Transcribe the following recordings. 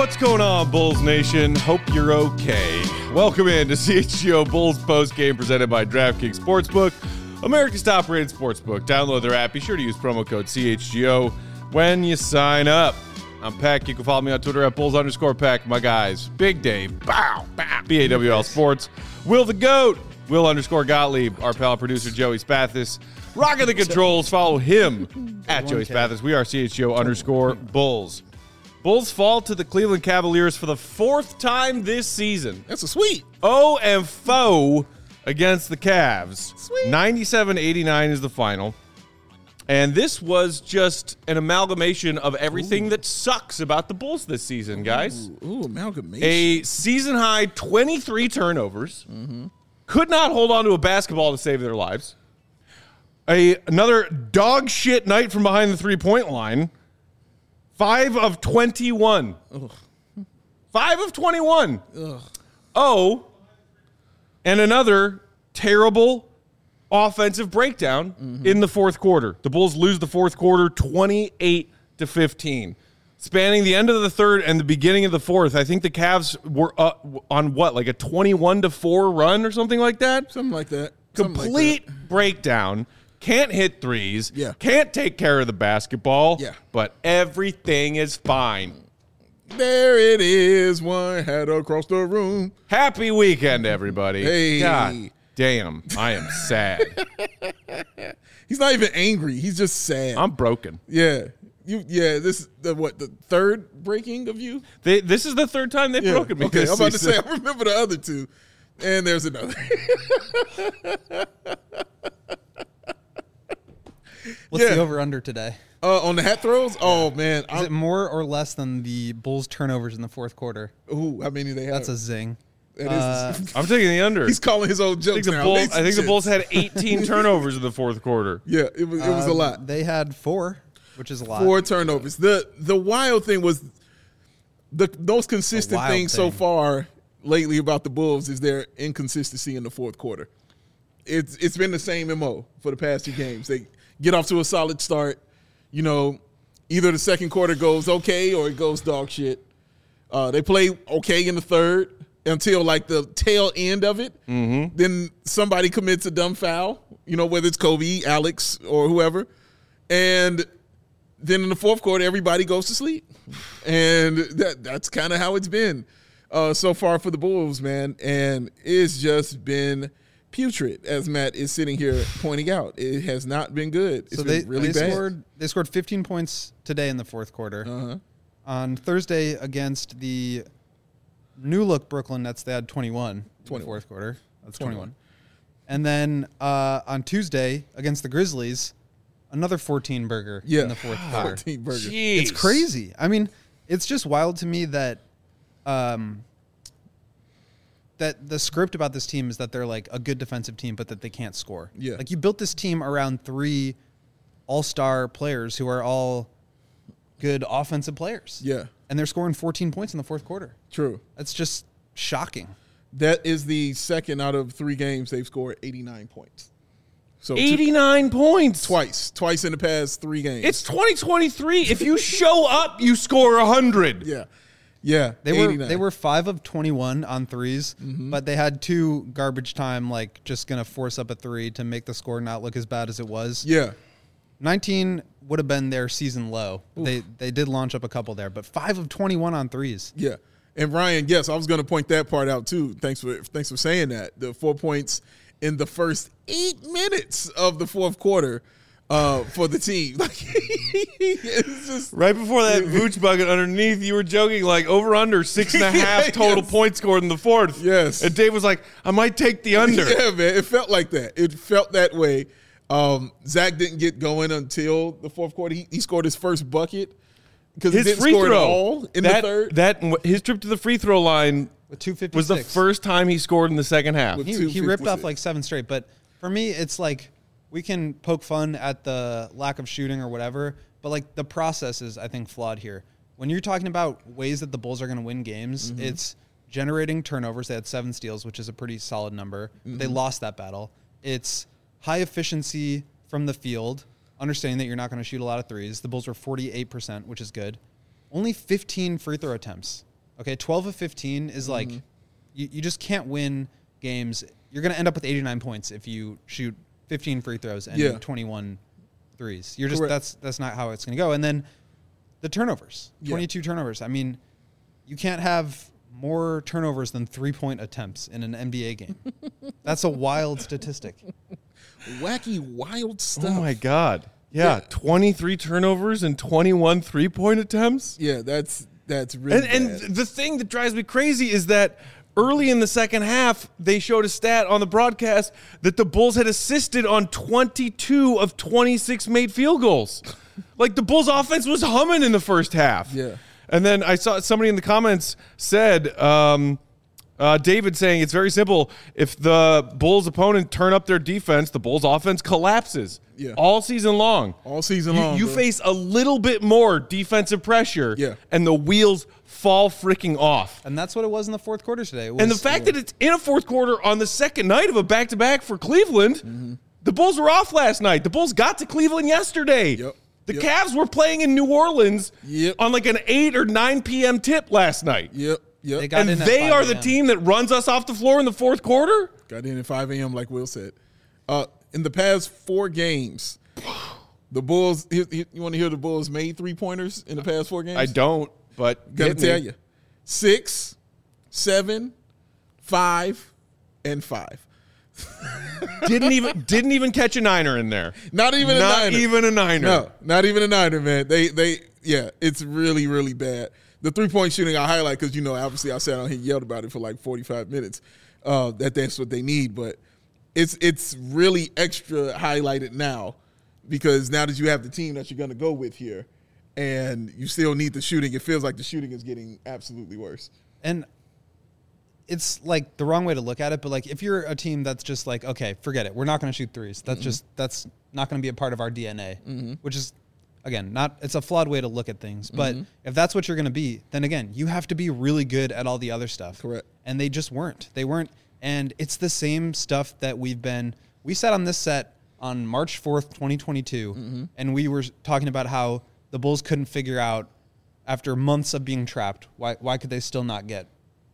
What's going on, Bulls Nation? Hope you're okay. Welcome in to CHGO Bulls Post Game presented by DraftKings Sportsbook, America's top-rated sportsbook. Download their app. Be sure to use promo code CHGO when you sign up. I'm Peck. You can follow me on Twitter at Bulls_Peck. My guys, Big Dave, BAWL Sports, Will the GOAT, Will_Gottlieb, our pal producer Joey Spathis, rocking the controls. Follow him at Joey Spathis. We are CHGO_Bulls. Bulls fall to the Cleveland Cavaliers for the fourth time this season. That's a sweep. 0-4 against the Cavs. Sweet. 97-89 is the final. And this was just an amalgamation of everything that sucks about the Bulls this season, guys. Ooh, amalgamation. A season-high 23 turnovers. Could not hold on to a basketball to save their lives. Another dog shit night from behind the three-point line. 5 of 21. Ugh. 5 of 21. Ugh. Oh, and another terrible offensive breakdown in the fourth quarter. The Bulls lose the fourth quarter 28-15. Spanning the end of the third and the beginning of the fourth, I think the Cavs were on what, like a 21-4 run or something like that? Something like that. Complete breakdown. Can't hit threes. Yeah. Can't take care of the basketball. Yeah. But everything is fine. There it is, one hat across the room. Happy weekend, everybody. Hey. God damn, I am sad. He's not even angry. He's just sad. I'm broken. Yeah. This is the third breaking of you? This is the third time they've broken me. Okay, this I'm about season. to say, I remember the other two. And there's another. What's the over-under today? On the hat throws? Oh, man. Is it more or less than the Bulls' turnovers in the fourth quarter? Ooh, how many they have? That's a zing. That is. I'm taking the under. He's calling his old I jokes think now. I think the Bulls had 18 turnovers in the fourth quarter. Yeah, it was a lot. They had 4, which is a lot. 4 turnovers. The wild thing was the most consistent thing so far lately about the Bulls is their inconsistency in the fourth quarter. It's been the same MO for the past 2 games. They get off to a solid start. You know, either the second quarter goes okay or it goes dog shit. They play okay in the third until like the tail end of it. Mm-hmm. Then somebody commits a dumb foul, you know, whether it's Kobe, Alex, or whoever. And then in the fourth quarter, everybody goes to sleep. And that's kind of how it's been so far for the Bulls, man. And it's just been putrid, as Matt is sitting here pointing out. It has not been good. It's been really bad. They scored 15 points today in the fourth quarter. Uh-huh. On Thursday against the new-look Brooklyn Nets, they had 21 in the fourth quarter. That's 21. And then on Tuesday against the Grizzlies, another 14-burger in the fourth quarter. 14-burger. Jeez. It's crazy. I mean, it's just wild to me that that the script about this team is that they're like a good defensive team, but that they can't score. Yeah. Like you built this team around 3 all-star players who are all good offensive players. Yeah. And they're scoring 14 points in the fourth quarter. True. That's just shocking. That is the second out of 3 games they've scored 89 points. So 89 points. Twice in the past 3 games. It's 2023. If you show up, you score 100. Yeah. They were 5 of 21 on threes, but they had 2 garbage time, like just going to force up a 3 to make the score not look as bad as it was. Yeah. 19 would have been their season low. Oof. They did launch up a couple there, but 5 of 21 on threes. Yeah. And Ryan, yes, I was going to point that part out too. Thanks for saying that. The 4 points in the first 8 minutes of the fourth quarter for the team. Like, it's just, right before that Vooch bucket underneath, you were joking like over under 6.5 total points scored in the fourth. Yes. And Dave was like, I might take the under. Yeah, man. It felt like that. It felt that way. Zach didn't get going until the fourth quarter. He scored his first bucket because he didn't score at all in the third. His trip to the free throw line with 2:56 was the first time he scored in the second half. He ripped off like 7 straight. But for me, it's like we can poke fun at the lack of shooting or whatever, but like the process is, I think, flawed here. When you're talking about ways that the Bulls are going to win games, it's generating turnovers. They had 7 steals, which is a pretty solid number. But they lost that battle. It's high efficiency from the field, understanding that you're not going to shoot a lot of threes. The Bulls were 48%, which is good. Only 15 free throw attempts. Okay, 12 of 15 is like you just can't win games. You're going to end up with 89 points if you shoot 15 free throws and 21 threes. You're just that's not how it's going to go. And then the turnovers, 22 turnovers. I mean, you can't have more turnovers than 3-point attempts in an NBA game. That's a wild statistic. Wacky, wild stuff. Oh my God. Yeah, 23 turnovers and 21 3-point attempts. Yeah, that's really bad. And the thing that drives me crazy is that early in the second half, they showed a stat on the broadcast that the Bulls had assisted on 22 of 26 made field goals. Like, the Bulls' offense was humming in the first half. Yeah. And then I saw somebody in the comments said, David saying it's very simple. If the Bulls' opponent turn up their defense, the Bulls' offense collapses all season long. All season long. You face a little bit more defensive pressure, and the wheels fall freaking off. And that's what it was in the fourth quarter today. And the fact that it's in a fourth quarter on the second night of a back-to-back for Cleveland, the Bulls were off last night. The Bulls got to Cleveland yesterday. The Cavs were playing in New Orleans on like an 8 or 9 p.m. tip last night. And they are the team that runs us off the floor in the fourth quarter? Got in at 5 a.m. like Will said. In the past 4 games, the Bulls, you want to hear the Bulls made 3-pointers in the past 4 games? I don't, but got to tell you. 6, 7, 5, and 5. didn't even catch a niner in there. Not even a niner. No, not even a niner, man. It's really, really bad. The 3-point shooting I highlight because, obviously I sat on here and yelled about it for like 45 minutes. That's what they need, but it's really extra highlighted now because now that you have the team that you're going to go with here and you still need the shooting, it feels like the shooting is getting absolutely worse. And it's like the wrong way to look at it, but like if you're a team that's just like, okay, forget it, we're not going to shoot threes. That's not going to be a part of our DNA, which is, again, it's a flawed way to look at things. But if that's what you're going to be, then again, you have to be really good at all the other stuff. Correct. And they just weren't. They weren't. And it's the same stuff that we sat on this set on March 4th, 2022, and we were talking about how the Bulls couldn't figure out, after months of being trapped, why could they still not get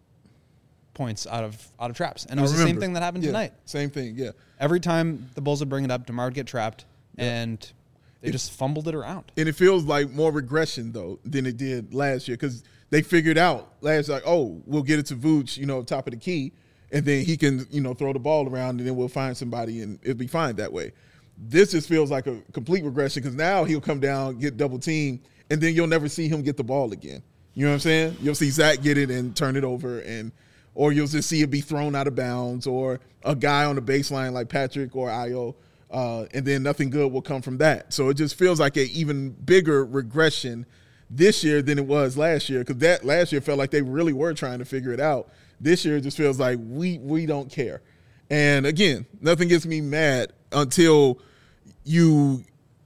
points out of traps. And it was the same thing that happened tonight. Same thing, yeah. Every time the Bulls would bring it up, DeMar would get trapped, and they just fumbled it around. And it feels like more regression, though, than it did last year because they figured out last year, we'll get it to Vooch, top of the key, and then he can, throw the ball around, and then we'll find somebody, and it'll be fine that way. This just feels like a complete regression because now he'll come down, get double teamed, and then you'll never see him get the ball again. You know what I'm saying? You'll see Zach get it and turn it over, or you'll just see it be thrown out of bounds, or a guy on the baseline like Patrick or Ayo, and then nothing good will come from that. So it just feels like an even bigger regression this year than it was last year because that last year felt like they really were trying to figure it out. This year it just feels like we don't care. And, again, nothing gets me mad until you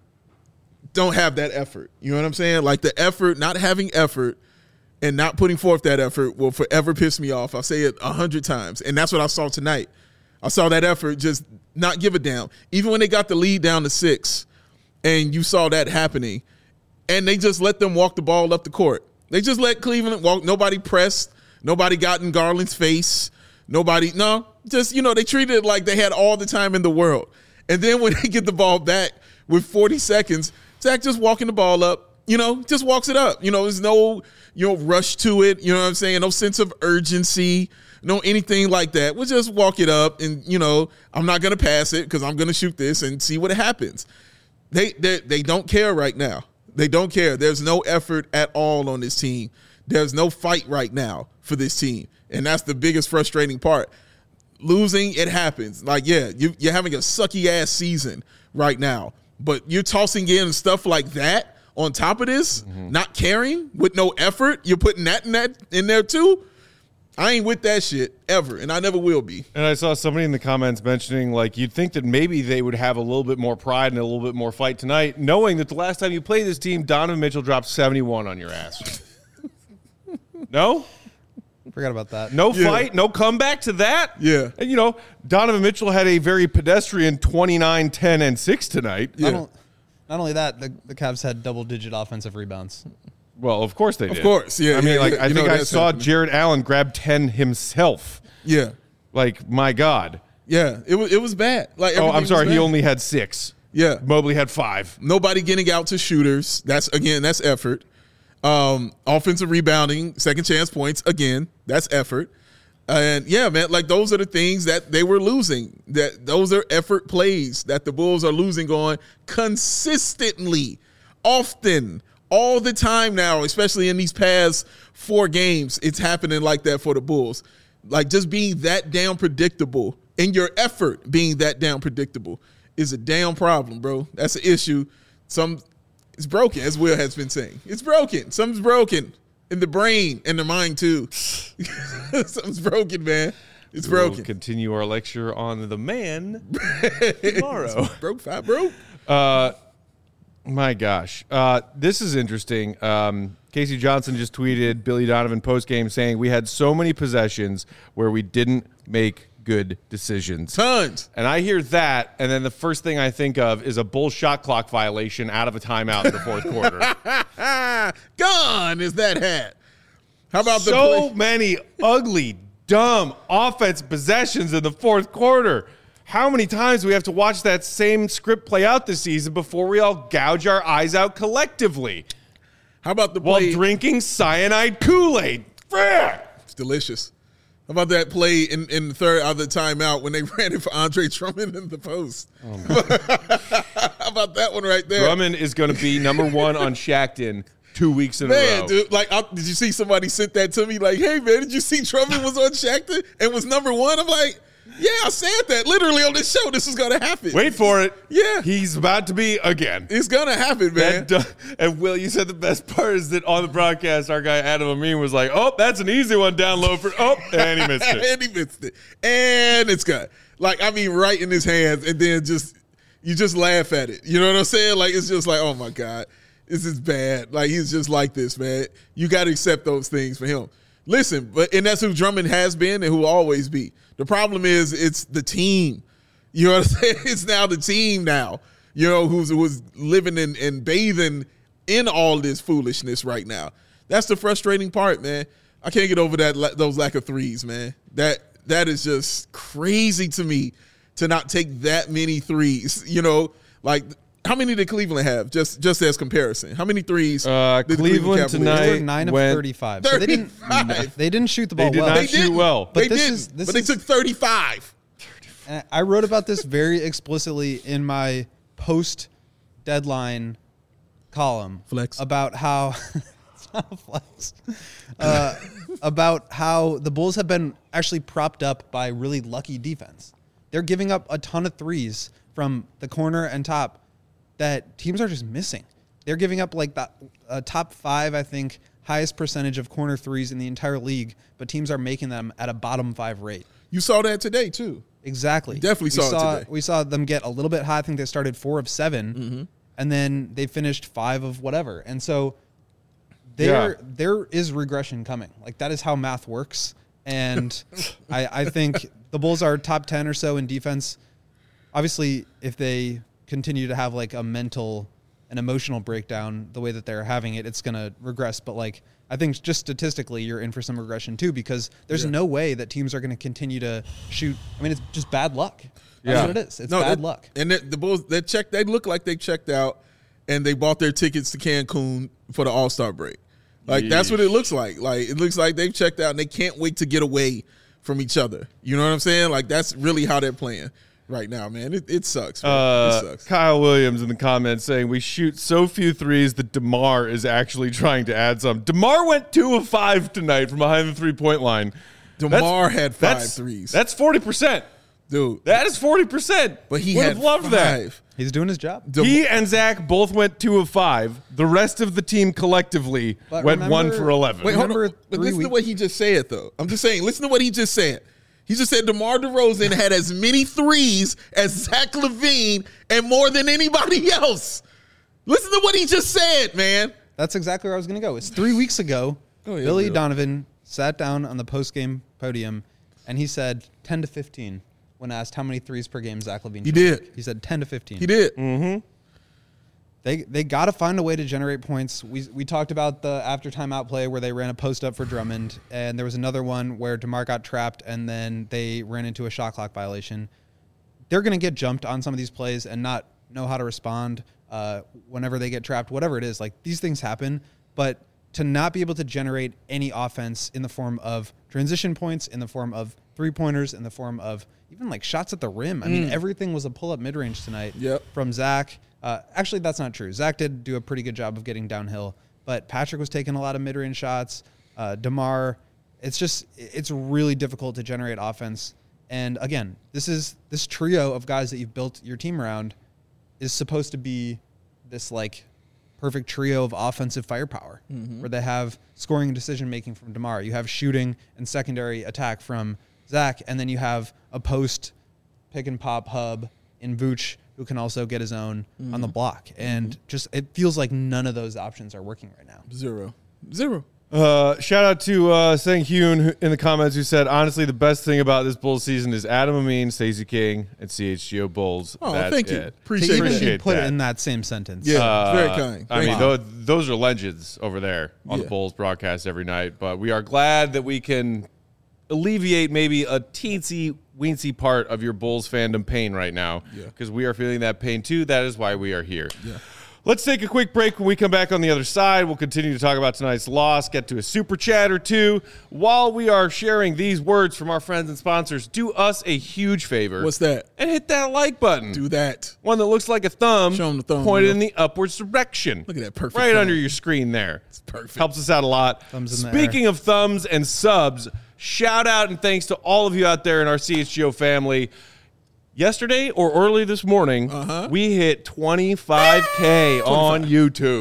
don't have that effort. You know what I'm saying? Like the effort, not having effort, and not putting forth that effort will forever piss me off. I'll say it 100 times. And that's what I saw tonight. I saw that effort just not give a damn. Even when they got the lead down to 6 and you saw that happening, and they just let them walk the ball up the court. They just let Cleveland walk. Nobody pressed. Nobody got in Garland's face. They treated it like they had all the time in the world. And then when they get the ball back with 40 seconds, Zach just walking the ball up, just walks it up. There's no, rush to it. You know what I'm saying? No sense of urgency, no anything like that. We'll just walk it up and, I'm not going to pass it because I'm going to shoot this and see what happens. They don't care right now. They don't care. There's no effort at all on this team. There's no fight right now for this team. And that's the biggest frustrating part. Losing, it happens. Like, you're having a sucky-ass season right now. But you're tossing in stuff like that on top of this, not caring, with no effort. You're putting that in there too. I ain't with that shit ever, and I never will be. And I saw somebody in the comments mentioning, like, you'd think that maybe they would have a little bit more pride and a little bit more fight tonight, knowing that the last time you played this team, Donovan Mitchell dropped 71 on your ass. No? Forgot about that. No fight, no comeback to that? Yeah. And, Donovan Mitchell had a very pedestrian 29, 10, and 6 tonight. Yeah. Not only that, the Cavs had double-digit offensive rebounds. Well, of course they did. Of course, yeah. I mean, yeah, like yeah. I think I saw happening. Jared Allen grab 10 himself. Yeah, Like, my God. yeah. It was bad. Like, Oh, I'm everything sorry. was He bad. only had 6. Yeah. Mobley had 5. Nobody getting out to shooters. That's effort. Offensive rebounding, second chance points. Again, that's effort. And yeah, man, like those are the things that they were losing. That those are effort plays that the Bulls are losing on consistently, often, all the time now, especially in these past 4 games. It's happening like that for the Bulls. Like just being that damn predictable and your effort being that damn predictable is a damn problem, bro. That's an issue. It's broken, as Will has been saying. It's broken. Something's broken in the brain and the mind too. Something's broken, man. It's broken. We'll continue our lecture on the man tomorrow. Broke 5 broke. My gosh. This is interesting. Casey Johnson just tweeted Billy Donovan postgame saying we had so many possessions where we didn't make good decisions. Tons. And I hear that, and then the first thing I think of is a Bull shot clock violation out of a timeout in the fourth quarter. Gone is that hat. How about the So play? many ugly, dumb offense possessions in the fourth quarter. How many times do we have to watch that same script play out this season before we all gouge our eyes out collectively How about the while play? drinking cyanide Kool-Aid? Frick! It's delicious. How about that play in the third out of the timeout when they ran it for Andre Drummond in the post? How about that one right there? Drummond is going to be number 1 on Shaqtin' 2 weeks in a Man, row. dude, like, did you see somebody sent that to me? Like, hey, man, did you see Drummond was on Shaqtin' and was number 1? I'm like, yeah, I said that literally on this show. This was going to happen. Wait for it. Yeah. He's about to be again. It's going to happen, man. And Will, you said the best part is that on the broadcast, our guy Adam Amin was like, "Oh, that's an easy one down low for and he missed it." And he missed it. And it's gone. Like, I mean, right in his hands, and then you just laugh at it. You know what I'm saying? Like, it's just like, oh my God, this is bad. Like, he's just like this, man. You got to accept those things for him. Listen, and that's who Drummond has been and who will always be. The problem is it's the team. You know what I'm saying? It's now the team now, you know, who's living and bathing in all this foolishness right now. That's the frustrating part, man. I can't get over those lack of threes, man. That is just crazy to me to not take that many threes. You know, like how many did Cleveland have? Just as comparison, how many threes? Did the Cleveland Cavaliers? tonight They were 9 of 35. So 35. they didn't shoot the ball They did well. not shoot well. But They this didn't. is- But they took 35. And I wrote about this very explicitly in my post-deadline column. Flex. About how it's not a flex. About how the Bulls have been actually propped up by really lucky defense. They're giving up a ton of threes from the corner and top that teams are just missing. They're giving up like the top 5, I think, highest percentage of corner threes in the entire league, but teams are making them at a bottom 5 rate. You saw that today too. Exactly. Definitely saw it today. We saw them get a little bit high. I think they started 4 of 7, and then they finished 5 of whatever. And so there is regression coming. Like that is how math works. And I think the Bulls are top 10 or so in defense. Obviously, if they continue to have like an emotional breakdown the way that they're having it, it's going to regress. But like, I think just statistically, you're in for some regression too, because there's no way that teams are going to continue to shoot. I mean, it's just bad luck. That's what it is. It's bad luck. And the Bulls, they look like they checked out and they bought their tickets to Cancun for the All-Star break. Like, that's what it looks like. Like, it looks like they've checked out and they can't wait to get away from each other. You know what I'm saying? Like, that's really how they're playing right now, man. It sucks. It sucks. Kyle Williams in the comments saying we shoot so few threes that DeMar is actually trying to add some. DeMar went 2 of 5 tonight from behind the 3-point line. DeMar had 5 threes. That's 40%. Dude. That is 40%. But he would had have loved 5. that. He's doing his job. He and Zach both went 2 of 5. The rest of the team collectively But went remember- 1 for 11. Wait, hold on. Remember But 3 listen to weeks- what he just said, though. I'm just saying, listen to what he just said. He just said DeMar DeRozan had as many threes as Zach LaVine and more than anybody else. Listen to what he just said, man. That's exactly where I was going to go. It's 3 weeks ago. Oh, yeah, Billy Bill. Donovan sat down on the post-game podium, and he said 10 to 15 when asked how many threes per game Zach LaVine He should did. make. He said 10 to 15. He did. They got to find a way to generate points. We talked about the after timeout play where they ran a post up for Drummond, and there was another one where DeMar got trapped, and then they ran into a shot clock violation. They're going to get jumped on some of these plays and not know how to respond whenever they get trapped, whatever it is. Like, these things happen, but to not be able to generate any offense in the form of transition points, in the form of three-pointers, in the form of even like shots at the rim. I mean, everything was a pull-up mid-range tonight from Zach. Actually, that's not true. Zach did do a pretty good job of getting downhill, but Patrick was taking a lot of mid-range shots. DeMar, it's really difficult to generate offense. And again, this trio of guys that you've built your team around is supposed to be this like perfect trio of offensive firepower, where they have scoring and decision-making from DeMar. You have shooting and secondary attack from Zach, and then you have a post pick-and-pop hub in Vooch, who can also get his own on the block. And just it feels like none of those options are working right now. Zero. Shout out to Sang Hyun in the comments who said, honestly, the best thing about this Bulls season is Adam Amin, Stacey King, and CHGO Bulls. Oh, That's thank you. it. Appreciate Put that. it in that same sentence. Yeah, very kind. I mean, those are legends over there on the Bulls broadcast every night. But we are glad that we can alleviate maybe a teensy-weensy part of your Bulls fandom pain right now, because we are feeling that pain too. That is why we are here. Yeah. Let's take a quick break. When we come back on the other side, we'll continue to talk about tonight's loss, get to a super chat or two. While we are sharing these words from our friends and sponsors, do us a huge favor. What's that? And hit that like button. Do that. One that looks like a thumb. Show 'em the thumb, pointed in the upwards direction. Look at that perfect right thumb. under your screen there. It's perfect. Helps us out a lot. Thumbs in the Speaking of thumbs and subs, shout out and thanks to all of you out there in our CHGO family. Yesterday or early this morning, we hit 25K on YouTube.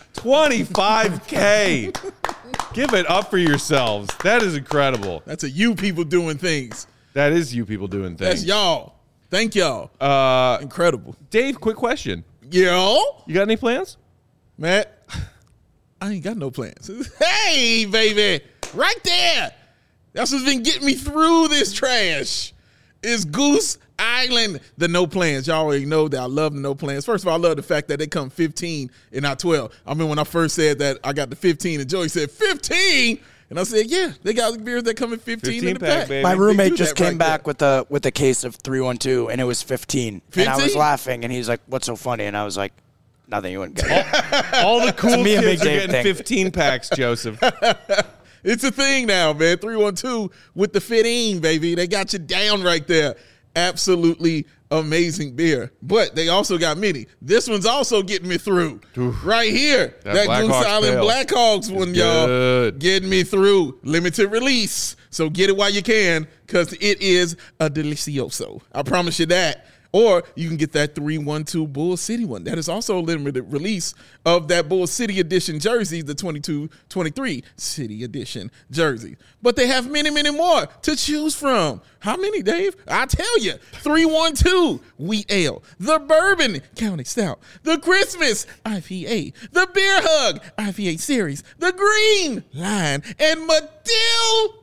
25K. Give it up for yourselves. That is incredible. That's you people doing things. That is you people doing things. That's y'all. Thank y'all. Incredible. Dave, quick question. Yo. You got any plans? Matt, I ain't got no plans. Hey, baby. Right there. That's what's been getting me through this trash. Is Goose Island, the no plans. Y'all already know that I love the no plans. First of all, I love the fact that they come 15 and not 12. I mean, when I first said that I got the 15 and Joey said 15, and I said, yeah, they got beers that come in 15 in the pack. My roommate just came back with a case of 312, and it was 15. And I was laughing, and he's like, what's so funny? And I was like, nothing, you wouldn't get it. All the cool kids are getting 15 packs, Joseph. It's a thing now, man. 312 with the 15, baby. They got you down right there. Absolutely amazing beer. But they also got mini. This one's also getting me through. Oof. Right here. That Goose Island Blackhawks one, y'all. Getting me through. Limited release. So get it while you can, because it is a delicioso. I promise you that. Or you can get that 312 Bull City one. That is also a limited release of that Bull City Edition jersey, the 22-23 City Edition jersey. But they have many, many more to choose from. How many, Dave? I'll tell you. 312 Wheat Ale, the Bourbon County Stout, the Christmas IPA, the Beer Hug IPA Series, the Green Line, and Matilda.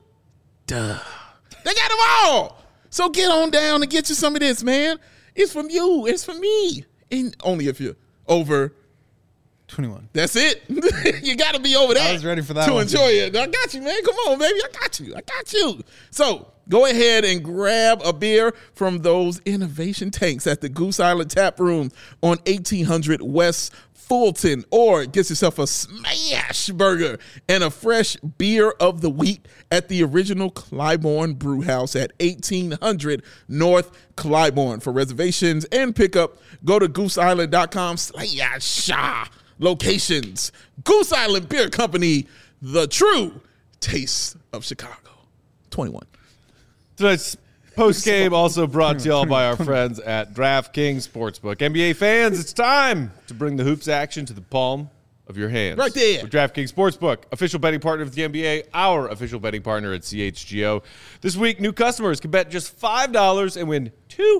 They got them all. So get on down and get you some of this, man. It's from you. It's from me. And only if you're over 21. That's it. You got to be over that. I was ready for that to one enjoy it. I got you, man. Come on, baby. I got you. So go ahead and grab a beer from those innovation tanks at the Goose Island Tap Room on 1800 West Fulton, or get yourself a smash burger and a fresh beer of the week at the original Clybourne Brew House at 1800 North Clybourne. For reservations and pickup, go to gooseisland.com/. Locations. Goose Island Beer Company, the true taste of Chicago. 21. Tonight's post-game also brought to y'all by our friends at DraftKings Sportsbook. NBA fans, it's time to bring the hoops action to the palm of your hands. Right there. With DraftKings Sportsbook, official betting partner of the NBA, our official betting partner at CHGO. This week, new customers can bet just $5 and win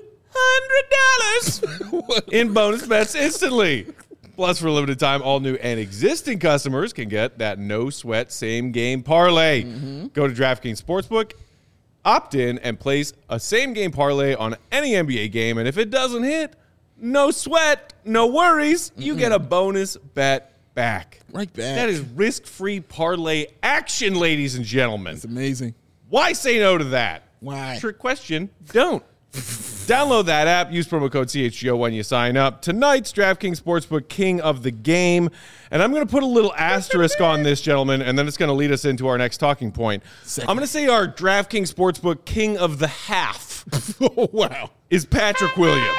$200 in bonus bets instantly. Plus, for a limited time, all new and existing customers can get that no-sweat same-game parlay. Go to DraftKings Sportsbook, opt in, and place a same-game parlay on any NBA game, and if it doesn't hit, no sweat, no worries. You get a bonus bet back. Right back. That is risk-free parlay action, ladies and gentlemen. It's amazing. Why say no to that? Why? Trick question. Don't. Download that app. Use promo code CHGO when you sign up. Tonight's DraftKings Sportsbook King of the Game. And I'm going to put a little asterisk on this, gentlemen, and then it's going to lead us into our next talking point. I'm going to say our DraftKings Sportsbook King of the Half. Oh, wow. Is Patrick Williams.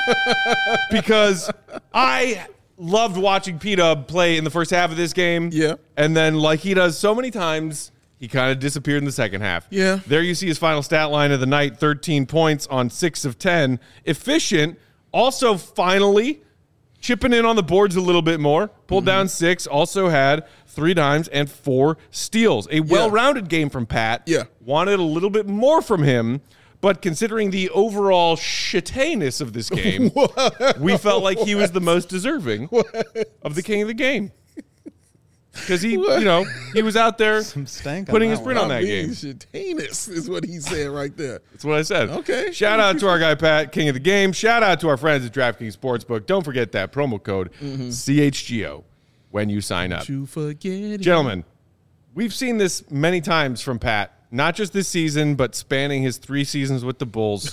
Because I loved watching P-Dub play in the first half of this game. Yeah. And then, like he does so many times, he kind of disappeared in the second half. Yeah. There you see his final stat line of the night, 13 points on 6 of 10. Efficient. Also, finally, chipping in on the boards a little bit more. Pulled down 6. Also had 3 dimes and 4 steals. A well-rounded game from Pat. Yeah. Wanted a little bit more from him. But considering the overall shittiness of this game, we felt like he was the most deserving of the king of the game. Because he was out there putting his print on that game. Shittiness is what he said right there. That's what I said. Okay. Shout out to our guy, Pat, king of the game. Shout out to our friends at DraftKings Sportsbook. Don't forget that promo code CHGO when you sign up. You forget Gentlemen, we've seen this many times from Pat, not just this season, but spanning his 3 seasons with the Bulls.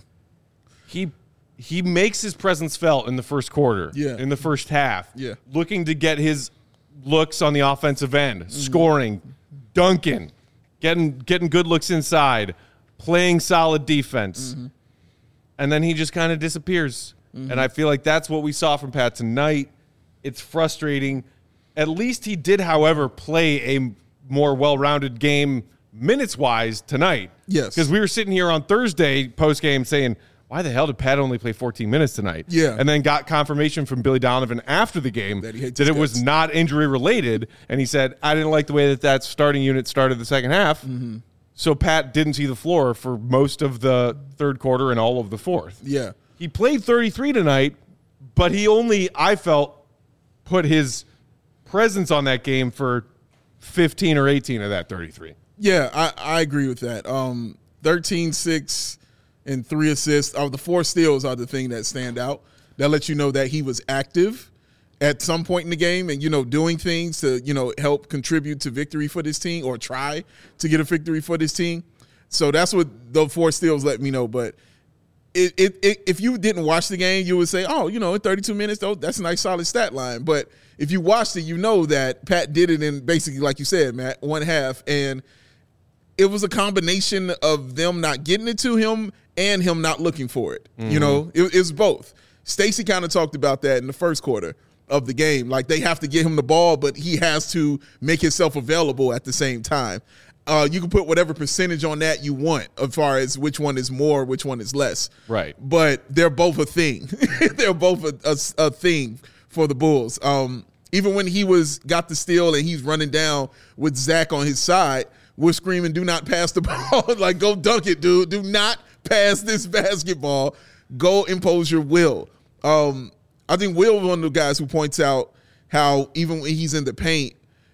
He makes his presence felt in the first quarter, in the first half, looking to get his looks on the offensive end, scoring, dunking, getting good looks inside, playing solid defense. And then he just kind of disappears. And I feel like that's what we saw from Pat tonight. It's frustrating. At least he did, however, play a more well-rounded game minutes-wise tonight. Yes. Because we were sitting here on Thursday post-game saying, why the hell did Pat only play 14 minutes tonight? Yeah. And then got confirmation from Billy Donovan after the game that it was not injury-related. And he said, I didn't like the way that starting unit started the second half. So Pat didn't see the floor for most of the third quarter and all of the fourth. Yeah. He played 33 tonight, but he only, I felt, put his presence on that game for 15 or 18 of that 33. Yeah, I agree with that. 13, 6, and 3 assists. The 4 steals are the thing that stand out. That lets you know that he was active at some point in the game and, doing things to, help contribute to victory for this team or try to get a victory for this team. So that's what the 4 steals let me know. But if you didn't watch the game, you would say, in 32 minutes, though, that's a nice solid stat line. But if you watched it, you know that Pat did it in basically, like you said, Matt, one half. And it was a combination of them not getting it to him and him not looking for it. It was both. Stacey kind of talked about that in the first quarter of the game. Like, they have to get him the ball, but he has to make himself available at the same time. You can put whatever percentage on that you want as far as which one is more, which one is less. Right. But they're both a thing. They're both a thing for the Bulls. Even when he got the steal and he's running down with Zach on his side, we're screaming, do not pass the ball. Like, go dunk it, dude. Do not pass this basketball. Go impose your will. I think Will is one of the guys who points out how even when he's in the paint,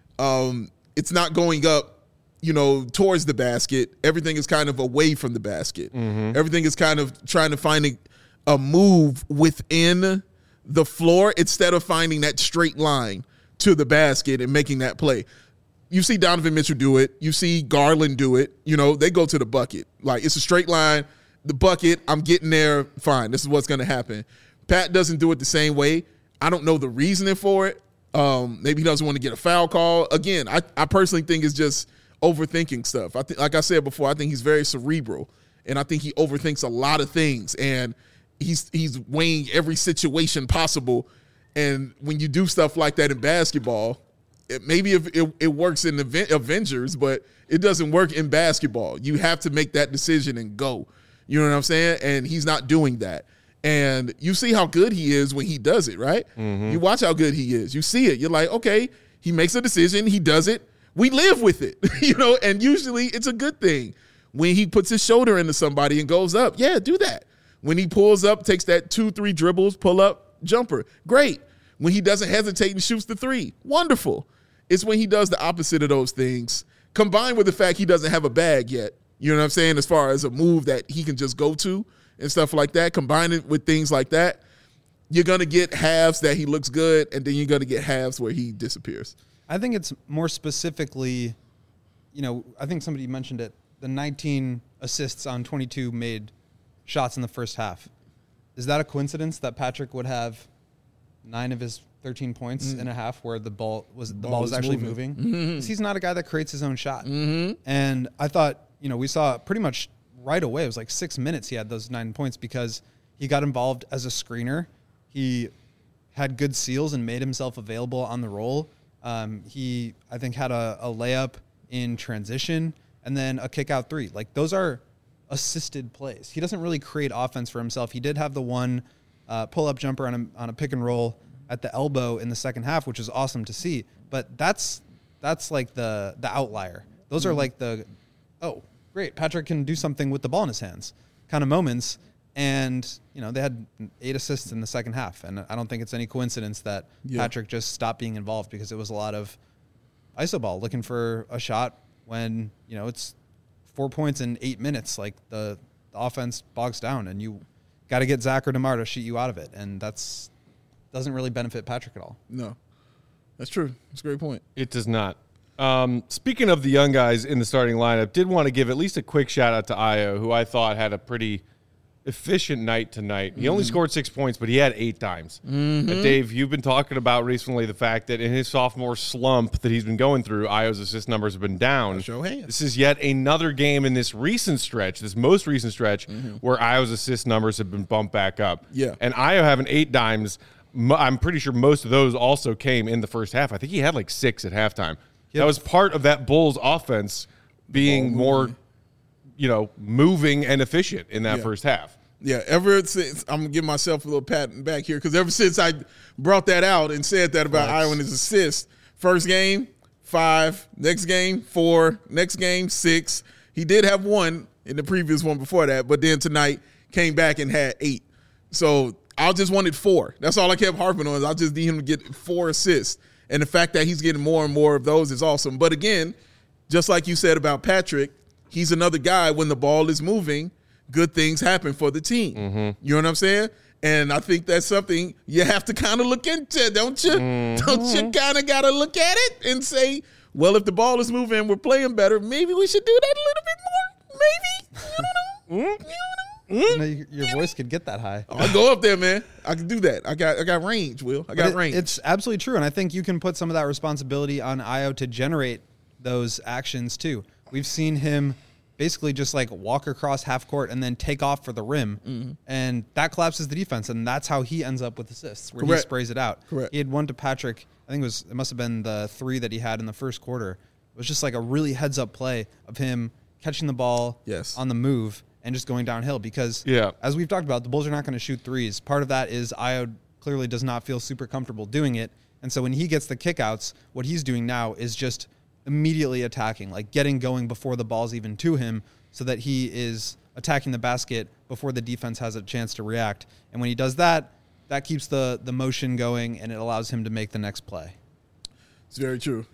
it's not going up, towards the basket. Everything is kind of away from the basket. Everything is kind of trying to find a move within the floor instead of finding that straight line to the basket and making that play. You see Donovan Mitchell do it. You see Garland do it. They go to the bucket. Like, it's a straight line, the bucket, I'm getting there, fine. This is what's going to happen. Pat doesn't do it the same way. I don't know the reasoning for it. Maybe he doesn't want to get a foul call. Again, I personally think it's just overthinking stuff. I think, like I said before, I think he's very cerebral, and I think he overthinks a lot of things, and he's weighing every situation possible. And when you do stuff like that in basketball, maybe if it works in Avengers, but it doesn't work in basketball. You have to make that decision and go. You know what I'm saying? And he's not doing that. And you see how good he is when he does it, right? You watch how good he is. You see it. You're like, okay, he makes a decision. He does it. We live with it, and usually it's a good thing. When he puts his shoulder into somebody and goes up, yeah, do that. When he pulls up, takes that 2-3 dribbles, pull up, jumper, great. When he doesn't hesitate and shoots the 3, wonderful. It's when he does the opposite of those things, combined with the fact he doesn't have a bag yet, you know what I'm saying, as far as a move that he can just go to and stuff like that, combine it with things like that, you're going to get halves that he looks good, and then you're going to get halves where he disappears. I think it's more specifically, I think somebody mentioned it, the 19 assists on 22 made shots in the first half. Is that a coincidence that Patrick would have 9 of his 13 points in a half where the ball was actually moving? Mm-hmm. He's not a guy that creates his own shot. Mm-hmm. And I thought, we saw pretty much right away. It was like 6 minutes he had those 9 points because he got involved as a screener. He had good seals and made himself available on the roll. He, I think, had a layup in transition and then a kick out 3. Like, those are assisted plays. He doesn't really create offense for himself. He did have the one pull-up jumper on a pick and roll at the elbow in the second half, which is awesome to see. But that's like the outlier. Those are like the, oh, great, Patrick can do something with the ball in his hands kind of moments. And, they had 8 assists in the second half. And I don't think it's any coincidence that Patrick just stopped being involved because it was a lot of iso ball looking for a shot when, it's 4 points in 8 minutes. Like the offense bogs down and you got to get Zach or DeMar to shoot you out of it. And doesn't really benefit Patrick at all. No, that's true. That's a great point. It does not. Speaking of the young guys in the starting lineup, did want to give at least a quick shout out to Ayo, who I thought had a pretty efficient night tonight. He only scored 6 points, but he had 8 dimes. Dave, you've been talking about recently the fact that in his sophomore slump that he's been going through, Ayo's assist numbers have been down. Show hands. This is yet another game in this recent stretch, this most recent stretch, where Ayo's assist numbers have been bumped back up. Yeah. And Ayo having 8 dimes, I'm pretty sure most of those also came in the first half. I think he had like 6 at halftime. That was part of that Bulls offense being more, moving and efficient in that first half. Yeah, ever since, I'm going to give myself a little pat back here, because ever since I brought that out and said that about Ayo and his assist, first game, 5, next game, 4, next game, 6. He did have 1 in the previous one before that, but then tonight came back and had 8. So I just wanted 4. That's all I kept harping on. I just need him to get 4 assists. And the fact that he's getting more and more of those is awesome. But again, just like you said about Patrick, he's another guy when the ball is moving, good things happen for the team. You know what I'm saying? And I think that's something you have to kind of look into, don't you? Don't you kind of got to look at it and say, well, if the ball is moving and we're playing better, maybe we should do that a little bit more. Maybe. I don't know. Your voice could get that high. I'll go up there, man. I can do that. I got range, Will. I got range. It's absolutely true, and I think you can put some of that responsibility on Ayo to generate those actions too. We've seen him basically just like walk across half court and then take off for the rim, and that collapses the defense, and that's how he ends up with assists, where he sprays it out. Correct. He had one to Patrick. I think it must have been the 3 that he had in the first quarter. It was just like a really heads-up play of him catching the ball on the move and just going downhill, because as we've talked about, the Bulls are not going to shoot threes. Part of that is Ayo clearly does not feel super comfortable doing it. And so when he gets the kickouts, what he's doing now is just immediately attacking, like getting going before the ball's even to him, so that he is attacking the basket before the defense has a chance to react. And when he does that, that keeps the motion going, and it allows him to make the next play. It's very true.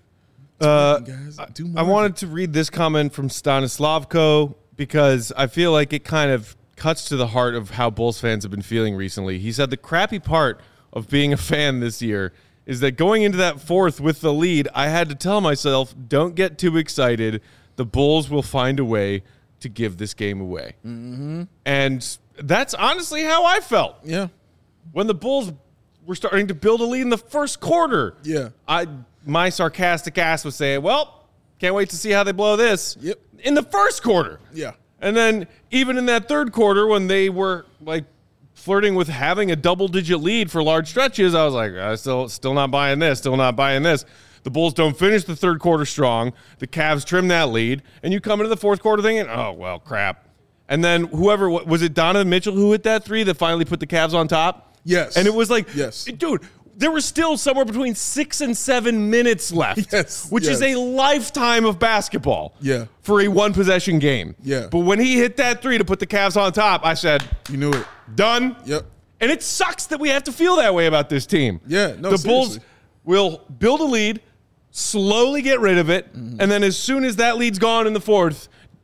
I wanted to read this comment from Stanislavko, because I feel like it kind of cuts to the heart of how Bulls fans have been feeling recently. He said the crappy part of being a fan this year is that going into that fourth with the lead, I had to tell myself, don't get too excited. The Bulls will find a way to give this game away. And that's honestly how I felt. Yeah. When the Bulls were starting to build a lead in the first quarter. Yeah. My sarcastic ass was saying, well, can't wait to see how they blow this. Yep. In the first quarter. Yeah. And then even in that third quarter, when they were like flirting with having a double-digit lead for large stretches, I was like, still not buying this, still not buying this. The Bulls don't finish the third quarter strong. The Cavs trim that lead. And you come into the fourth quarter thinking, oh, well, crap. And then whoever, was it Donovan Mitchell who hit that 3 that finally put the Cavs on top? Yes. And it was like, yes, dude, there was still somewhere between 6 and 7 minutes left, which is a lifetime of basketball for a one-possession game. Yeah. But when he hit that 3 to put the Cavs on top, I said, you knew it. Done. Yep. And it sucks that we have to feel that way about this team. Yeah, no, the Bulls will build a lead, slowly get rid of it, and then as soon as that lead's gone in the fourth,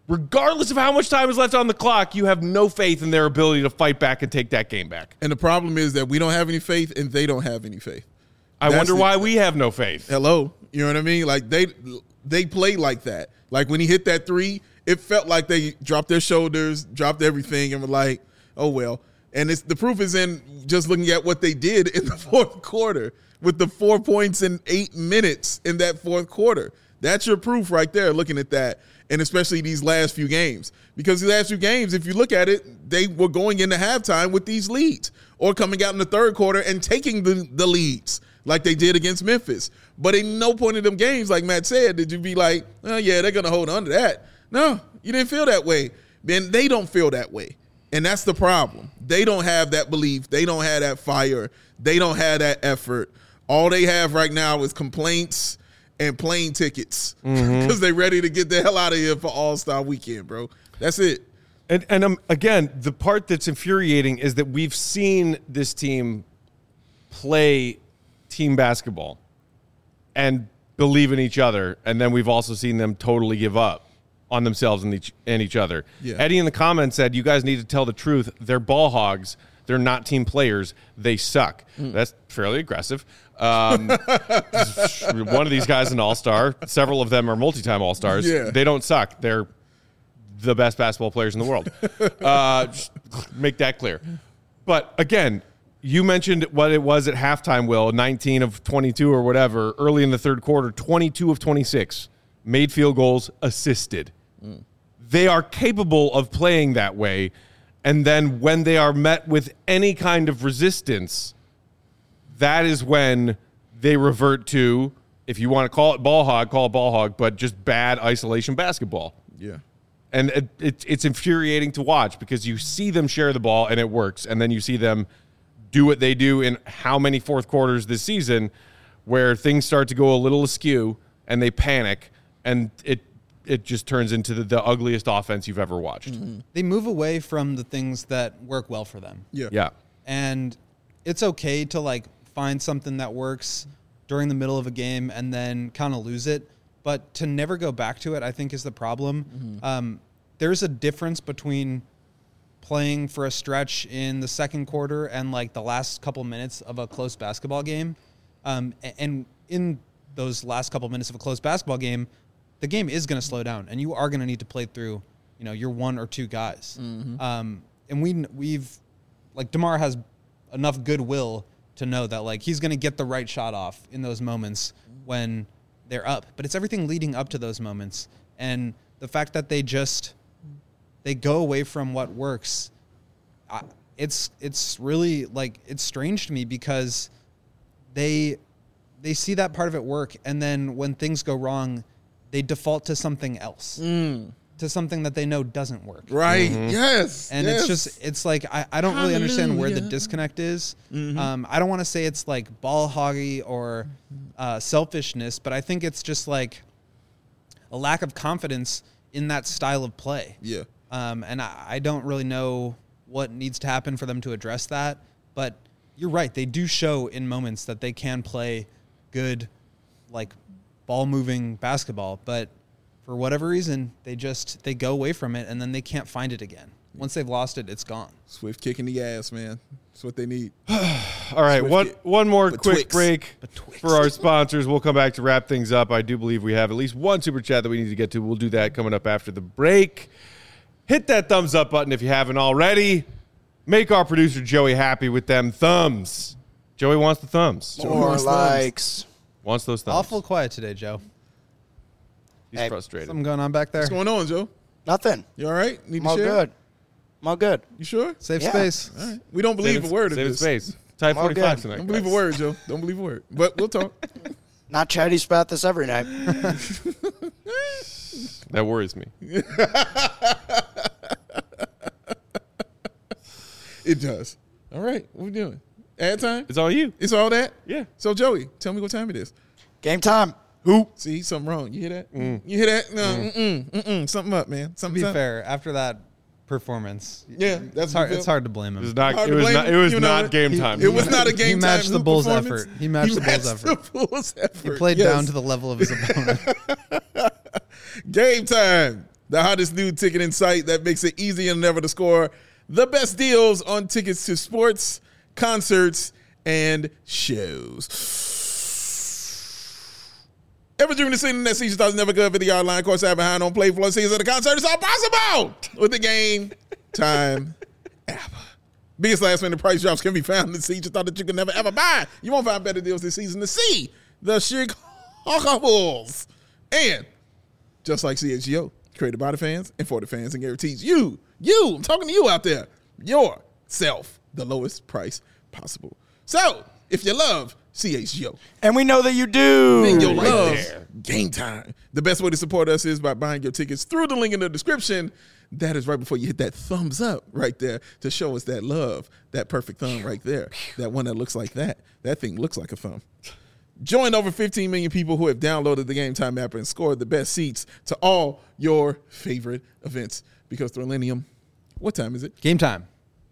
regardless of how much time is left on the clock, you have no faith in their ability to fight back and take that game back. And the problem is that we don't have any faith and they don't have any faith. I wonder why we have no faith. Hello. You know what I mean? Like they play like that. Like when he hit that 3, it felt like they dropped their shoulders, dropped everything, and were like, oh, well. And the proof is in just looking at what they did in the fourth quarter with the 4 points in 8 minutes in that fourth quarter. That's your proof right there, looking at that, and especially these last few games. Because these last few games, if you look at it, they were going into halftime with these leads or coming out in the third quarter and taking the leads like they did against Memphis. But in no point in them games, like Matt said, did you be like, oh, yeah, they're going to hold on to that. No, you didn't feel that way. Then they don't feel that way. And that's the problem. They don't have that belief. They don't have that fire. They don't have that effort. All they have right now is complaints and plane tickets because they're ready to get the hell out of here for All-Star Weekend, bro. That's it. And again, the part that's infuriating is that we've seen this team play team basketball and believe in each other, and then we've also seen them totally give up on themselves and each other. Yeah. Eddie in the comments said, you guys need to tell the truth. They're ball hogs. They're not team players. They suck. That's fairly aggressive. One of these guys is an all-star. Several of them are multi-time all-stars. Yeah. They don't suck. They're the best basketball players in the world. Just make that clear. But again, you mentioned what it was at halftime, Will, 19 of 22 or whatever, early in the third quarter, 22 of 26, made field goals, assisted. They are capable of playing that way, and then when they are met with any kind of resistance, that is when they revert to, if you want to call it ball hog, but just bad isolation basketball. Yeah. And it's infuriating to watch because you see them share the ball and it works, and then you see them do what they do in how many fourth quarters this season where things start to go a little askew and they panic, and it just turns into the ugliest offense you've ever watched. They move away from the things that work well for them. Yeah. And it's okay to like find something that works during the middle of a game and then kind of lose it. But to never go back to it, I think, is the problem. There's a difference between playing for a stretch in the second quarter and like the last couple minutes of a close basketball game. And in those last couple minutes of a close basketball game, the game is going to slow down, and you are going to need to play through, your one or two guys. And we've like DeMar has enough goodwill to know that like he's going to get the right shot off in those moments when they're up. But it's everything leading up to those moments, and the fact that they go away from what works. It's really like, it's strange to me because they see that part of it work, and then when things go wrong, they default to something else, to something that they know doesn't work. Right. Yes. And it's like, I don't really understand where the disconnect is. I don't want to say it's like ball hoggy or selfishness, but I think it's just like a lack of confidence in that style of play. Yeah. And I don't really know what needs to happen for them to address that, but you're right. They do show in moments that they can play good, like, ball-moving basketball, but for whatever reason, they go away from it, and then they can't find it again. Once they've lost it, it's gone. Swift kicking the ass, man. That's what they need. All right, one more quick break for our sponsors. We'll come back to wrap things up. I do believe we have at least one super chat that we need to get to. We'll do that coming up after the break. Hit that thumbs up button if you haven't already. Make our producer Joey happy with them thumbs. Joey wants the thumbs. More likes. Wants those thumbs. Awful quiet today, Joe. He's frustrated. Something going on back there? What's going on, Joe? Nothing. You all right? Need to I'm all share? good. I'm all good. You sure? Save Yeah. space. All right. We don't believe a word of this. Save space. Type I'm all 45 good. tonight. Don't believe a word, Joe. Don't believe a word. But we'll talk. Not chatty spat this every night. That worries me. It does. All right. What we doing? Ad time? It's all you. It's all that? Yeah. So, Joey, tell me what time it is. Game time. Who? See, something wrong. You hear that? You hear that? No, something up, man. To Something be up. fair, after that performance, Yeah, that's it's hard to blame him. It was not. Hard It to was blame not. him. It was You know not what? game time. It was not a game He matched time the Bulls' performance. effort. He matched the Bulls' effort. The Bulls' effort. He played Yes. down to the level of his opponent. Game time. the hottest new ticketing site that makes it easier than ever to score the best deals on tickets to sports, concerts, and shows. Ever dreamed of seeing that season thought was never good for the yard line, course, behind on play floor seasons of the concert? It's all possible with the Game Time app. Biggest last minute price drops can be found in the seats you thought that you could never ever buy. You won't find better deals this season to see the Chicago Bulls. And just like CHGO, created by the fans and for the fans, and guarantees you, I'm talking to you out there, yourself, the lowest price possible. So, if you love CHGO, and we know that you do, then you'll love Game Time. The best way to support us is by buying your tickets through the link in the description. That is right before you hit that thumbs up right there to show us that love, that perfect thumb right there, that one that looks like that. That thing looks like a thumb. Join over 15 million people who have downloaded the Game Time app and scored the best seats to all your favorite events. Because Thrillenium, what time is it? Game time.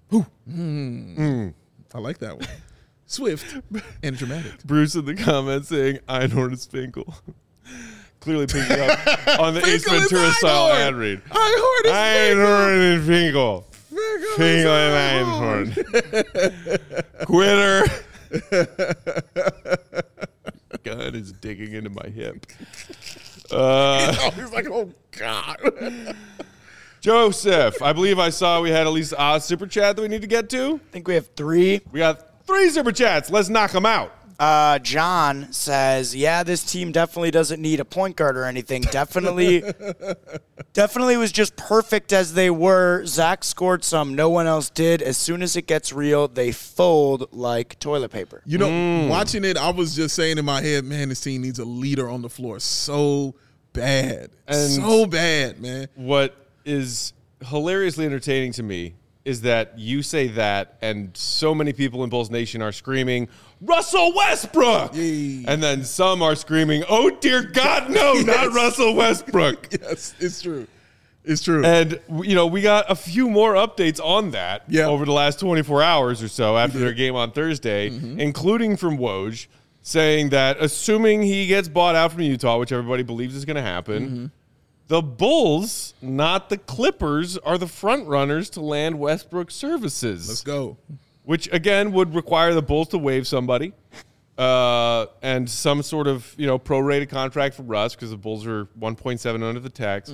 I like that one. Swift and dramatic. Bruce in the comments saying Einhorn is Finkel. Clearly picking up on the Ace Ventura style ad read. Einhorn is Finkel. Finkel and Einhorn. Quitter. Gun is digging into my hip. He's like, oh, God. Joseph, I believe I saw we had at least a super chat that we need to get to. I think we have 3. We got 3 super chats. Let's knock them out. John says, yeah, this team definitely doesn't need a point guard or anything. Definitely was just perfect as they were. Zach scored some. No one else did. As soon as it gets real, they fold like toilet paper. You know, watching it, I was just saying in my head, man, this team needs a leader on the floor so bad. And so bad, man. What is hilariously entertaining to me is that you say that, and so many people in Bulls Nation are screaming, Russell Westbrook! Yay. And then some are screaming, oh, dear God, no, yes. Not Russell Westbrook. Yes, it's true. It's true. And, you know, we got a few more updates on that over the last 24 hours or so after their game on Thursday, including from Woj, saying that assuming he gets bought out from Utah, which everybody believes is going to happen, the Bulls, not the Clippers, are the front runners to land Westbrook services. Let's go. Which, again, would require the Bulls to waive somebody and some sort of, you know, prorated contract for Russ because the Bulls are 1.7 under the tax.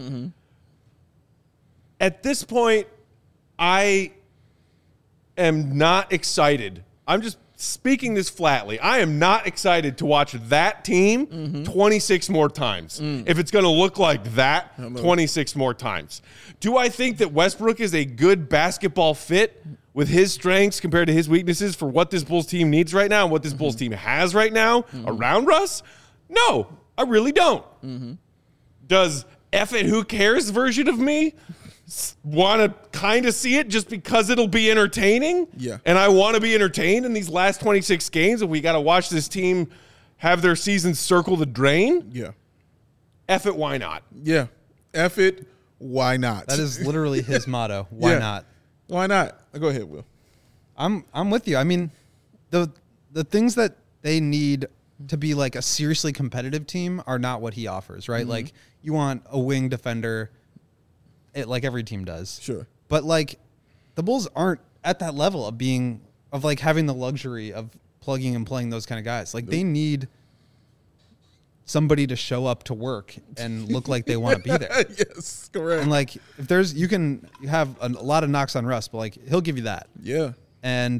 At this point, I am not excited. I'm just speaking this flatly. I am not excited to watch that team 26 more times. If it's going to look like that 26 more times. Do I think that Westbrook is a good basketball fit with his strengths compared to his weaknesses for what this Bulls team needs right now and what this Bulls team has right now around Russ? No, I really don't. Does F it, who cares version of me want to kind of see it just because it'll be entertaining? Yeah. And I want to be entertained in these last 26 games, and we got to watch this team have their season circle the drain? Yeah. F it, why not? Yeah. F it, why not? That is literally his motto. Why not? Why not? Go ahead, Will. I'm with you. I mean, the things that they need to be like a seriously competitive team are not what he offers, right? Like, you want a wing defender, like every team does. Sure. But like, the Bulls aren't at that level of like having the luxury of plugging and playing those kind of guys. Like, they need somebody to show up to work and look like they want to be there. Yes, correct. And like, if there's, you can have a lot of knocks on Russ, but like, he'll give you that. Yeah. And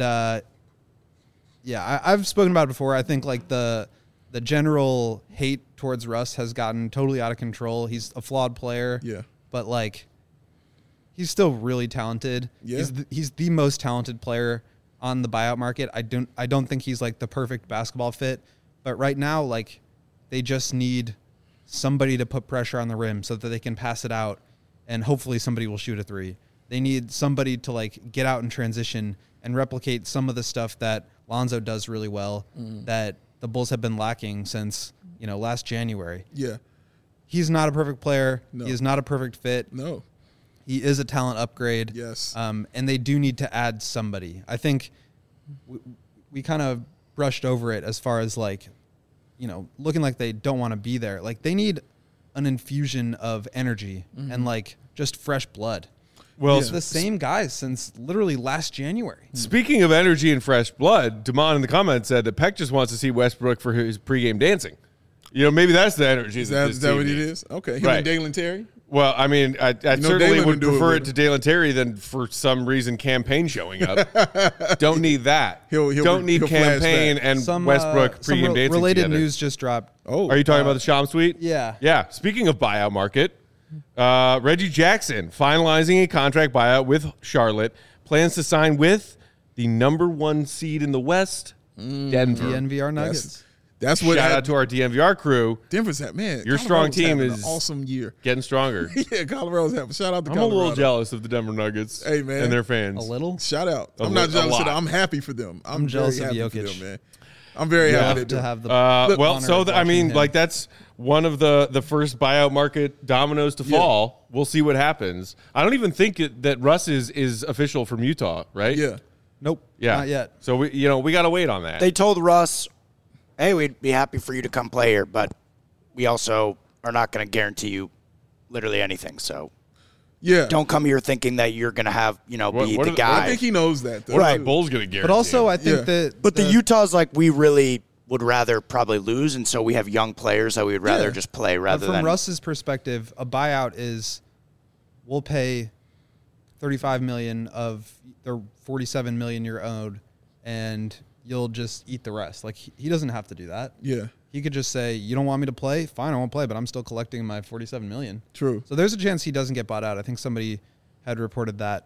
I've spoken about it before. I think like the general hate towards Russ has gotten totally out of control. He's a flawed player. Yeah. But like, he's still really talented. Yeah. He's the most talented player on the buyout market. I don't think he's like the perfect basketball fit, but right now, like, they just need somebody to put pressure on the rim so that they can pass it out, and hopefully somebody will shoot a three. They need somebody to like get out and transition and replicate some of the stuff that Lonzo does really well that the Bulls have been lacking since, you know, last January. Yeah. He's not a perfect player. No. He is not a perfect fit. No. He is a talent upgrade. Yes. And they do need to add somebody. I think we kind of brushed over it as far as like, you know, looking like they don't want to be there. Like, they need an infusion of energy and like just fresh blood. Well, it's the same guys since literally last January. Speaking of energy and fresh blood, Damon in the comments said that Peck just wants to see Westbrook for his pregame dancing. Maybe that's the energy. Is that what it is? Okay. Him and Dalen Terry? Well, I mean, I certainly would prefer it to Dalen Terry than for some reason campaign showing up. Don't need that. Don't need campaign and Westbrook pregame dancing related together. news just dropped. Oh, are you talking about the Shams tweet? Yeah. Yeah. Speaking of buyout market, Reggie Jackson finalizing a contract buyout with Charlotte, plans to sign with the number 1 seed in the West, Denver. DNVR Nuggets. That's what. Shout out to our DNVR crew. Denver's that man. Your strong team is an awesome year, getting stronger. Yeah, Colorado's having. Shout out to I'm Colorado. a little jealous of the Denver Nuggets. Hey man, and their fans. A little. Shout out. I'm not jealous of them. I'm happy for them. I'm jealous of Jokic. Jokic. Man. I'm very happy to have the. I mean, like that's one of the first buyout market dominoes to fall. We'll see what happens. I don't even think that Russ is official from Utah, right? Yeah. Nope. Yeah. Not yet. So we got to wait on that. They told Russ, hey, we'd be happy for you to come play here, but we also are not going to guarantee you literally anything. So don't come here thinking that you're going to have, be the guy. I think he knows that, though. Right. Bulls going to guarantee. But also, I think that. But the Utah's like, we really would rather probably lose, and so we have young players that we would rather just play rather than. From Russ's perspective, a buyout is we'll pay $35 million of the $47 million you're owed, and you'll just eat the rest. Like, he doesn't have to do that. Yeah. He could just say, you don't want me to play? Fine, I won't play, but I'm still collecting my $47 million. True. So there's a chance he doesn't get bought out. I think somebody had reported that.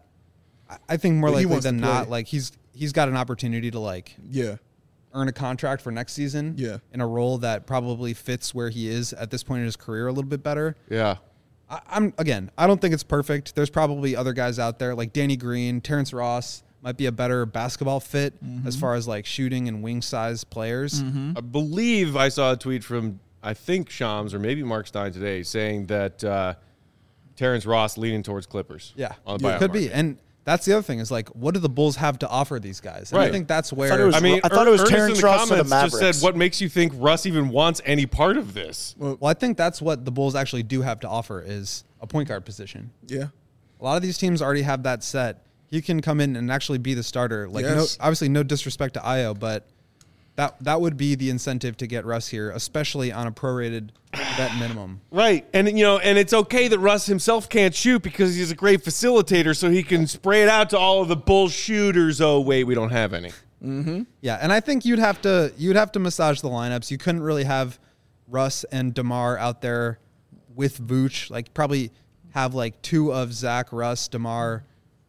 I think more likely than not, like, he's got an opportunity to, like, earn a contract for next season in a role that probably fits where he is at this point in his career a little bit better. Yeah. I don't think it's perfect. There's probably other guys out there like Danny Green, Terrence Ross might be a better basketball fit as far as like shooting and wing size players. I believe I saw a tweet from, I think Shams or maybe Mark Stein today saying that Terrence Ross leaning towards Clippers. Yeah. On the buyout could market. be. And that's the other thing is like, what do the Bulls have to offer these guys? And right. I think that's where. I thought it was Terrence Ross to the Mavericks. Just said, what makes you think Russ even wants any part of this? Well, I think that's what the Bulls actually do have to offer is a point guard position. Yeah. A lot of these teams already have that set. He can come in and actually be the starter. Like, obviously no disrespect to Ayo, but that would be the incentive to get Russ here, especially on a prorated vet minimum. Right. And, and it's okay that Russ himself can't shoot because he's a great facilitator, so he can spray it out to all of the Bull shooters. Oh, wait, we don't have any. Mm-hmm. Yeah, and I think you'd have to massage the lineups. You couldn't really have Russ and DeMar out there with Vooch. Like, probably have like two of Zach, Russ, DeMar,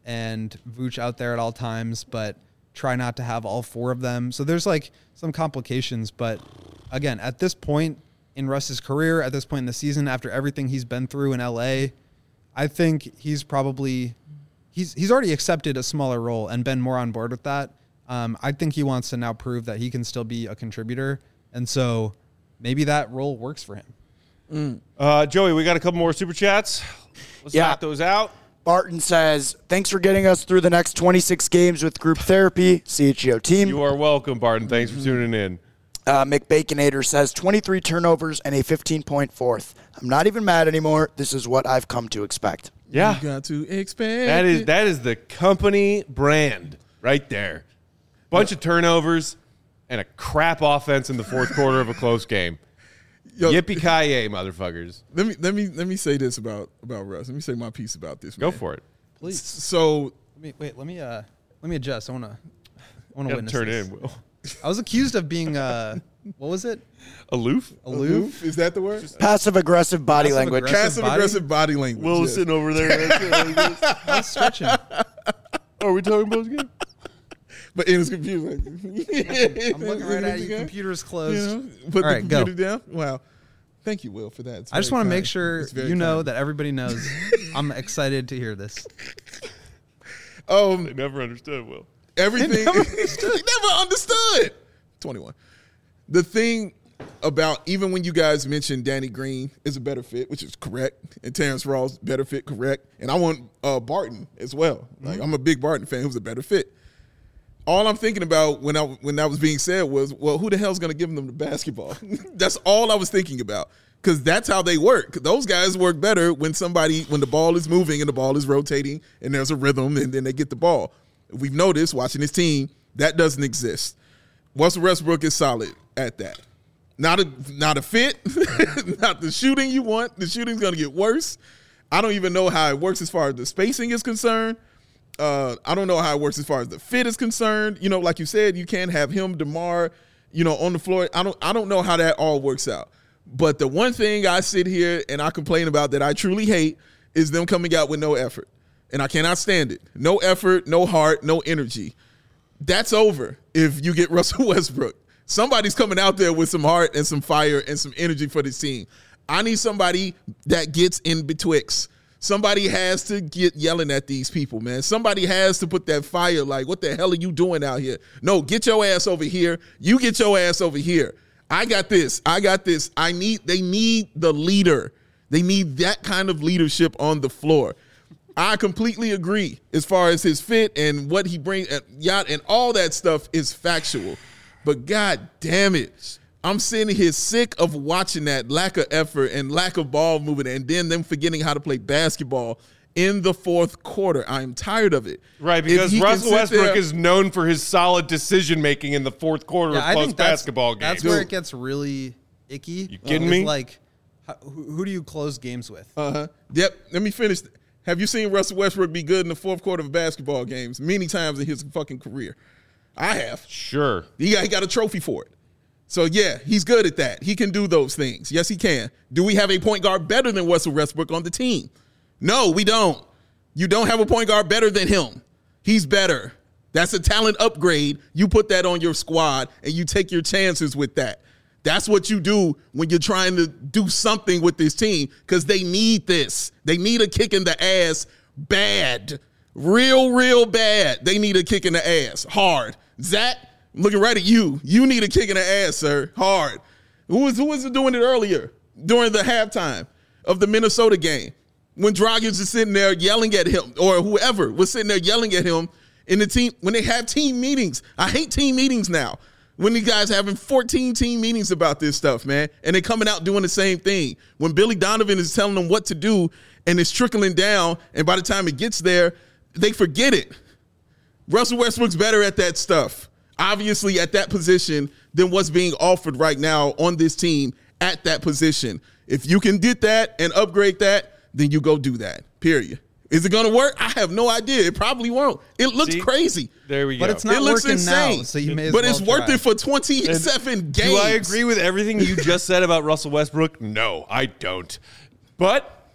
and Vooch out there at all times, but try not to have all four of them. So there's like some complications, but again, at this point in Russ's career, at this point in the season, after everything he's been through in LA, I think he's already accepted a smaller role and been more on board with that. I think he wants to now prove that he can still be a contributor, and so maybe that role works for him. Joey, we got a couple more super chats. Let's knock those out. Barton says, thanks for getting us through the next 26 games with group therapy, CHGO team. You are welcome, Barton. Thanks for tuning in. McBaconator says, 23 turnovers and a 15-point fourth. I'm not even mad anymore. This is what I've come to expect. Yeah. You got to expect that is the company brand right there. Bunch of turnovers and a crap offense in the fourth quarter of a close game. Yo, Yippee-ki-yay, motherfuckers. Let me say this about Russ. Let me say my piece about this. Go man. for it. Please. So let me adjust. I want to witness turn this. in, Will. I was accused of being what was it? Aloof? aloof? Is that the word? Passive-aggressive body language. Passive-aggressive body language. Will is sitting over there. I was stretching. Are we talking about again? But in his computer, I'm looking right at you. Computer's closed. Put All the right, computer go. down. Wow. Thank you, Will, for that. It's I just very want to kind. make sure It's very you know kind. that everybody knows I'm excited to hear this. They never understood, Will. Everything. Never understood. 21. The thing about, even when you guys mentioned Danny Green is a better fit, which is correct, and Terrence Ross, better fit, correct. And I want Barton as well. Like, I'm a big Barton fan who's a better fit. All I'm thinking about when that was being said was, well, who the hell's going to give them the basketball? That's all I was thinking about. because that's how they work. Those guys work better when the ball is moving and the ball is rotating and there's a rhythm and then they get the ball. We've noticed watching this team, that doesn't exist. Russell Westbrook is solid at that. Not a fit, not the shooting you want. The shooting's going to get worse. I don't even know how it works as far as the spacing is concerned. I don't know how it works as far as the fit is concerned. You know, like you said, you can't have him, DeMar, on the floor. I don't know how that all works out. But the one thing I sit here and I complain about that I truly hate is them coming out with no effort. And I cannot stand it. No effort, no heart, no energy. That's over if you get Russell Westbrook. Somebody's coming out there with some heart and some fire and some energy for this team. I need somebody that gets in betwixt. Somebody has to get yelling at these people, man. Somebody has to put that fire like, what the hell are you doing out here? No, get your ass over here. You get your ass over here. I got this. They need the leader. They need that kind of leadership on the floor. I completely agree as far as his fit and what he brings and all that stuff is factual. But God damn it, I'm sitting here sick of watching that lack of effort and lack of ball movement and then them forgetting how to play basketball in the fourth quarter. I'm tired of it. Right, because Russell Westbrook is known for his solid decision-making in the fourth quarter of close basketball games. That's where it gets really icky. You kidding me? Like, who do you close games with? Yep, let me finish. Have you seen Russell Westbrook be good in the fourth quarter of basketball games many times in his fucking career? I have. Sure. He got a trophy for it. So, yeah, he's good at that. He can do those things. Yes, he can. Do we have a point guard better than Russell Westbrook on the team? No, we don't. You don't have a point guard better than him. He's better. That's a talent upgrade. You put that on your squad, and you take your chances with that. That's what you do when you're trying to do something with this team because they need this. They need a kick in the ass bad. Real bad. They need a kick in the ass. Hard. Zach, looking right at you. You need a kick in the ass, sir. Hard. Who was doing it earlier during the halftime of the Minnesota game when Dragic is sitting there yelling at him or whoever was sitting there yelling at him in the team when they have team meetings. I hate team meetings now. When these guys having 14 team meetings about this stuff, man, and they coming out doing the same thing. When Billy Donovan is telling them what to do and it's trickling down, and by the time it gets there, they forget it. Russell Westbrook's better at that stuff, obviously at that position, than what's being offered right now on this team at that position. If you can get that and upgrade that, then you go do that, period. Is it going to work? I have no idea. It probably won't. It looks crazy. There we go. But it's not working insane now, so you may as well it's try. Worth it for 27 games. Do I agree with everything you just said about Russell Westbrook? No, I don't. But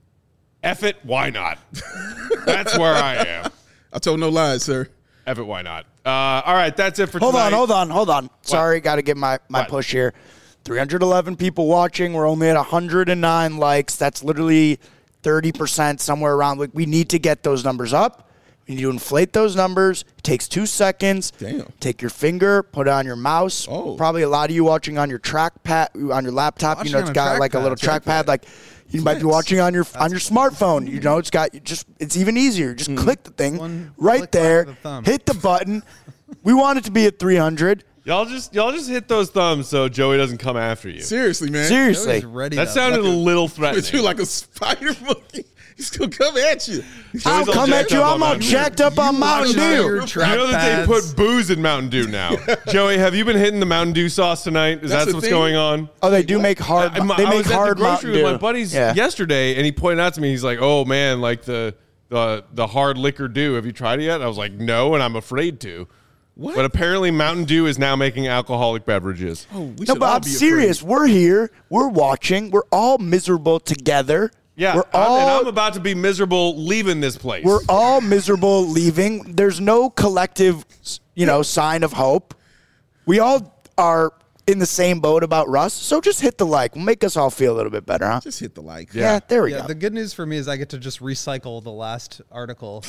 F it, why not? That's where I am. I told no lies, sir. F it, why not? All right, that's it for tonight. Hold on. Sorry, got to get my push here. 311 people watching. We're only at 109 likes. That's literally 30%, somewhere around. We need to get those numbers up. We need to inflate those numbers. It takes 2 seconds. Damn. Take your finger, put it on your mouse. Oh. Probably a lot of you watching on your trackpad, on your laptop. It's got like a little trackpad. Like you might be watching on your smartphone. It's even easier. Just click the thing right there. Hit the button. We want it to be at 300. Y'all just hit those thumbs so Joey doesn't come after you. Seriously, man. Seriously. That sounded a little threatening. But you like a spider monkey. He's going to come at you. I'll come at you. I'm all jacked up on Mountain Dew. You know that they put booze in Mountain Dew now. Joey, have you been hitting the Mountain Dew sauce tonight? Is that what's going on? Oh, they do make hard. They make hard Mountain Dew. I was at the grocery with my buddies yesterday, and he pointed out to me, he's like, oh, man, like the hard liquor Dew. Have you tried it yet? And I was like, no, and I'm afraid to. What? But apparently Mountain Dew is now making alcoholic beverages. Oh, but I'm serious. We're here. We're watching. We're all miserable together. Yeah, I'm about to be miserable leaving this place. We're all miserable leaving. There's no collective, sign of hope. We all are in the same boat about Russ, so just hit the like. We'll make us all feel a little bit better, huh? Just hit the like. Yeah, there we go. The good news for me is I get to just recycle the last article,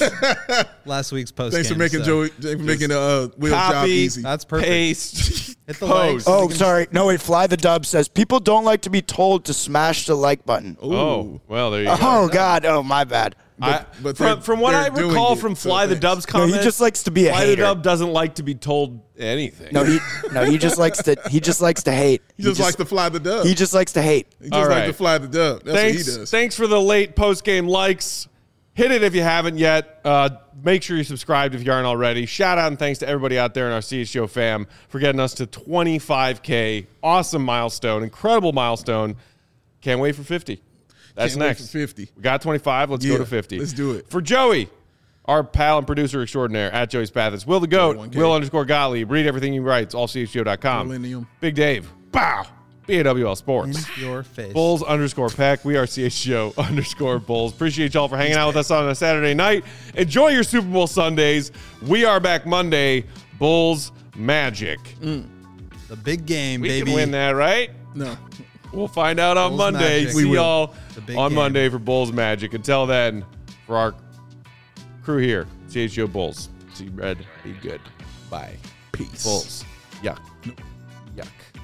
last week's post. Thanks for making Will's job easy. That's perfect. Paste. Hit the post. like. Oh, sorry. No, wait. Fly the Dub says people don't like to be told to smash the like button. Ooh. Oh, well, there you go. Oh, God. Oh, my bad. But from what I they're doing recall it, from so Fly the thanks. Dub's No, comments, he just likes to be a Fly hater. the Dub doesn't like to be told anything. He just likes to. He just likes to hate. He just likes to fly the dub. He just likes to hate. He just All likes right. to fly the dub. That's what he does. Thanks for the late post-game likes. Hit it if you haven't yet. Make sure you're subscribed if you aren't already. Shout out and thanks to everybody out there in our CHGO fam for getting us to 25K. Awesome milestone. Incredible milestone. Can't wait for 50. That's Can't wait next. for 50. We got 25. Let's go Yeah, to 50. let's do it. For Joey, our pal and producer extraordinaire at Joey's Pathis. Will the Goat, 1K. Will_Gottlieb. Read everything he writes, allchgo.com. Millennium. Big Dave. Bow. BAWL Sports. In your face. Bulls_Peck. We are CHGO_Bulls. Appreciate y'all for hanging out with us on a Saturday night. Enjoy your Super Bowl Sundays. We are back Monday. Bulls Magic. The big game, We baby. can win that, right? No. We'll find out on Bulls Monday. Magic. See We will. y'all The big on game. Monday for Bulls Magic. Until then, for our crew here, CHGO Bulls. See red, be good. Bye. Peace. Bulls. Yuck. Yuck.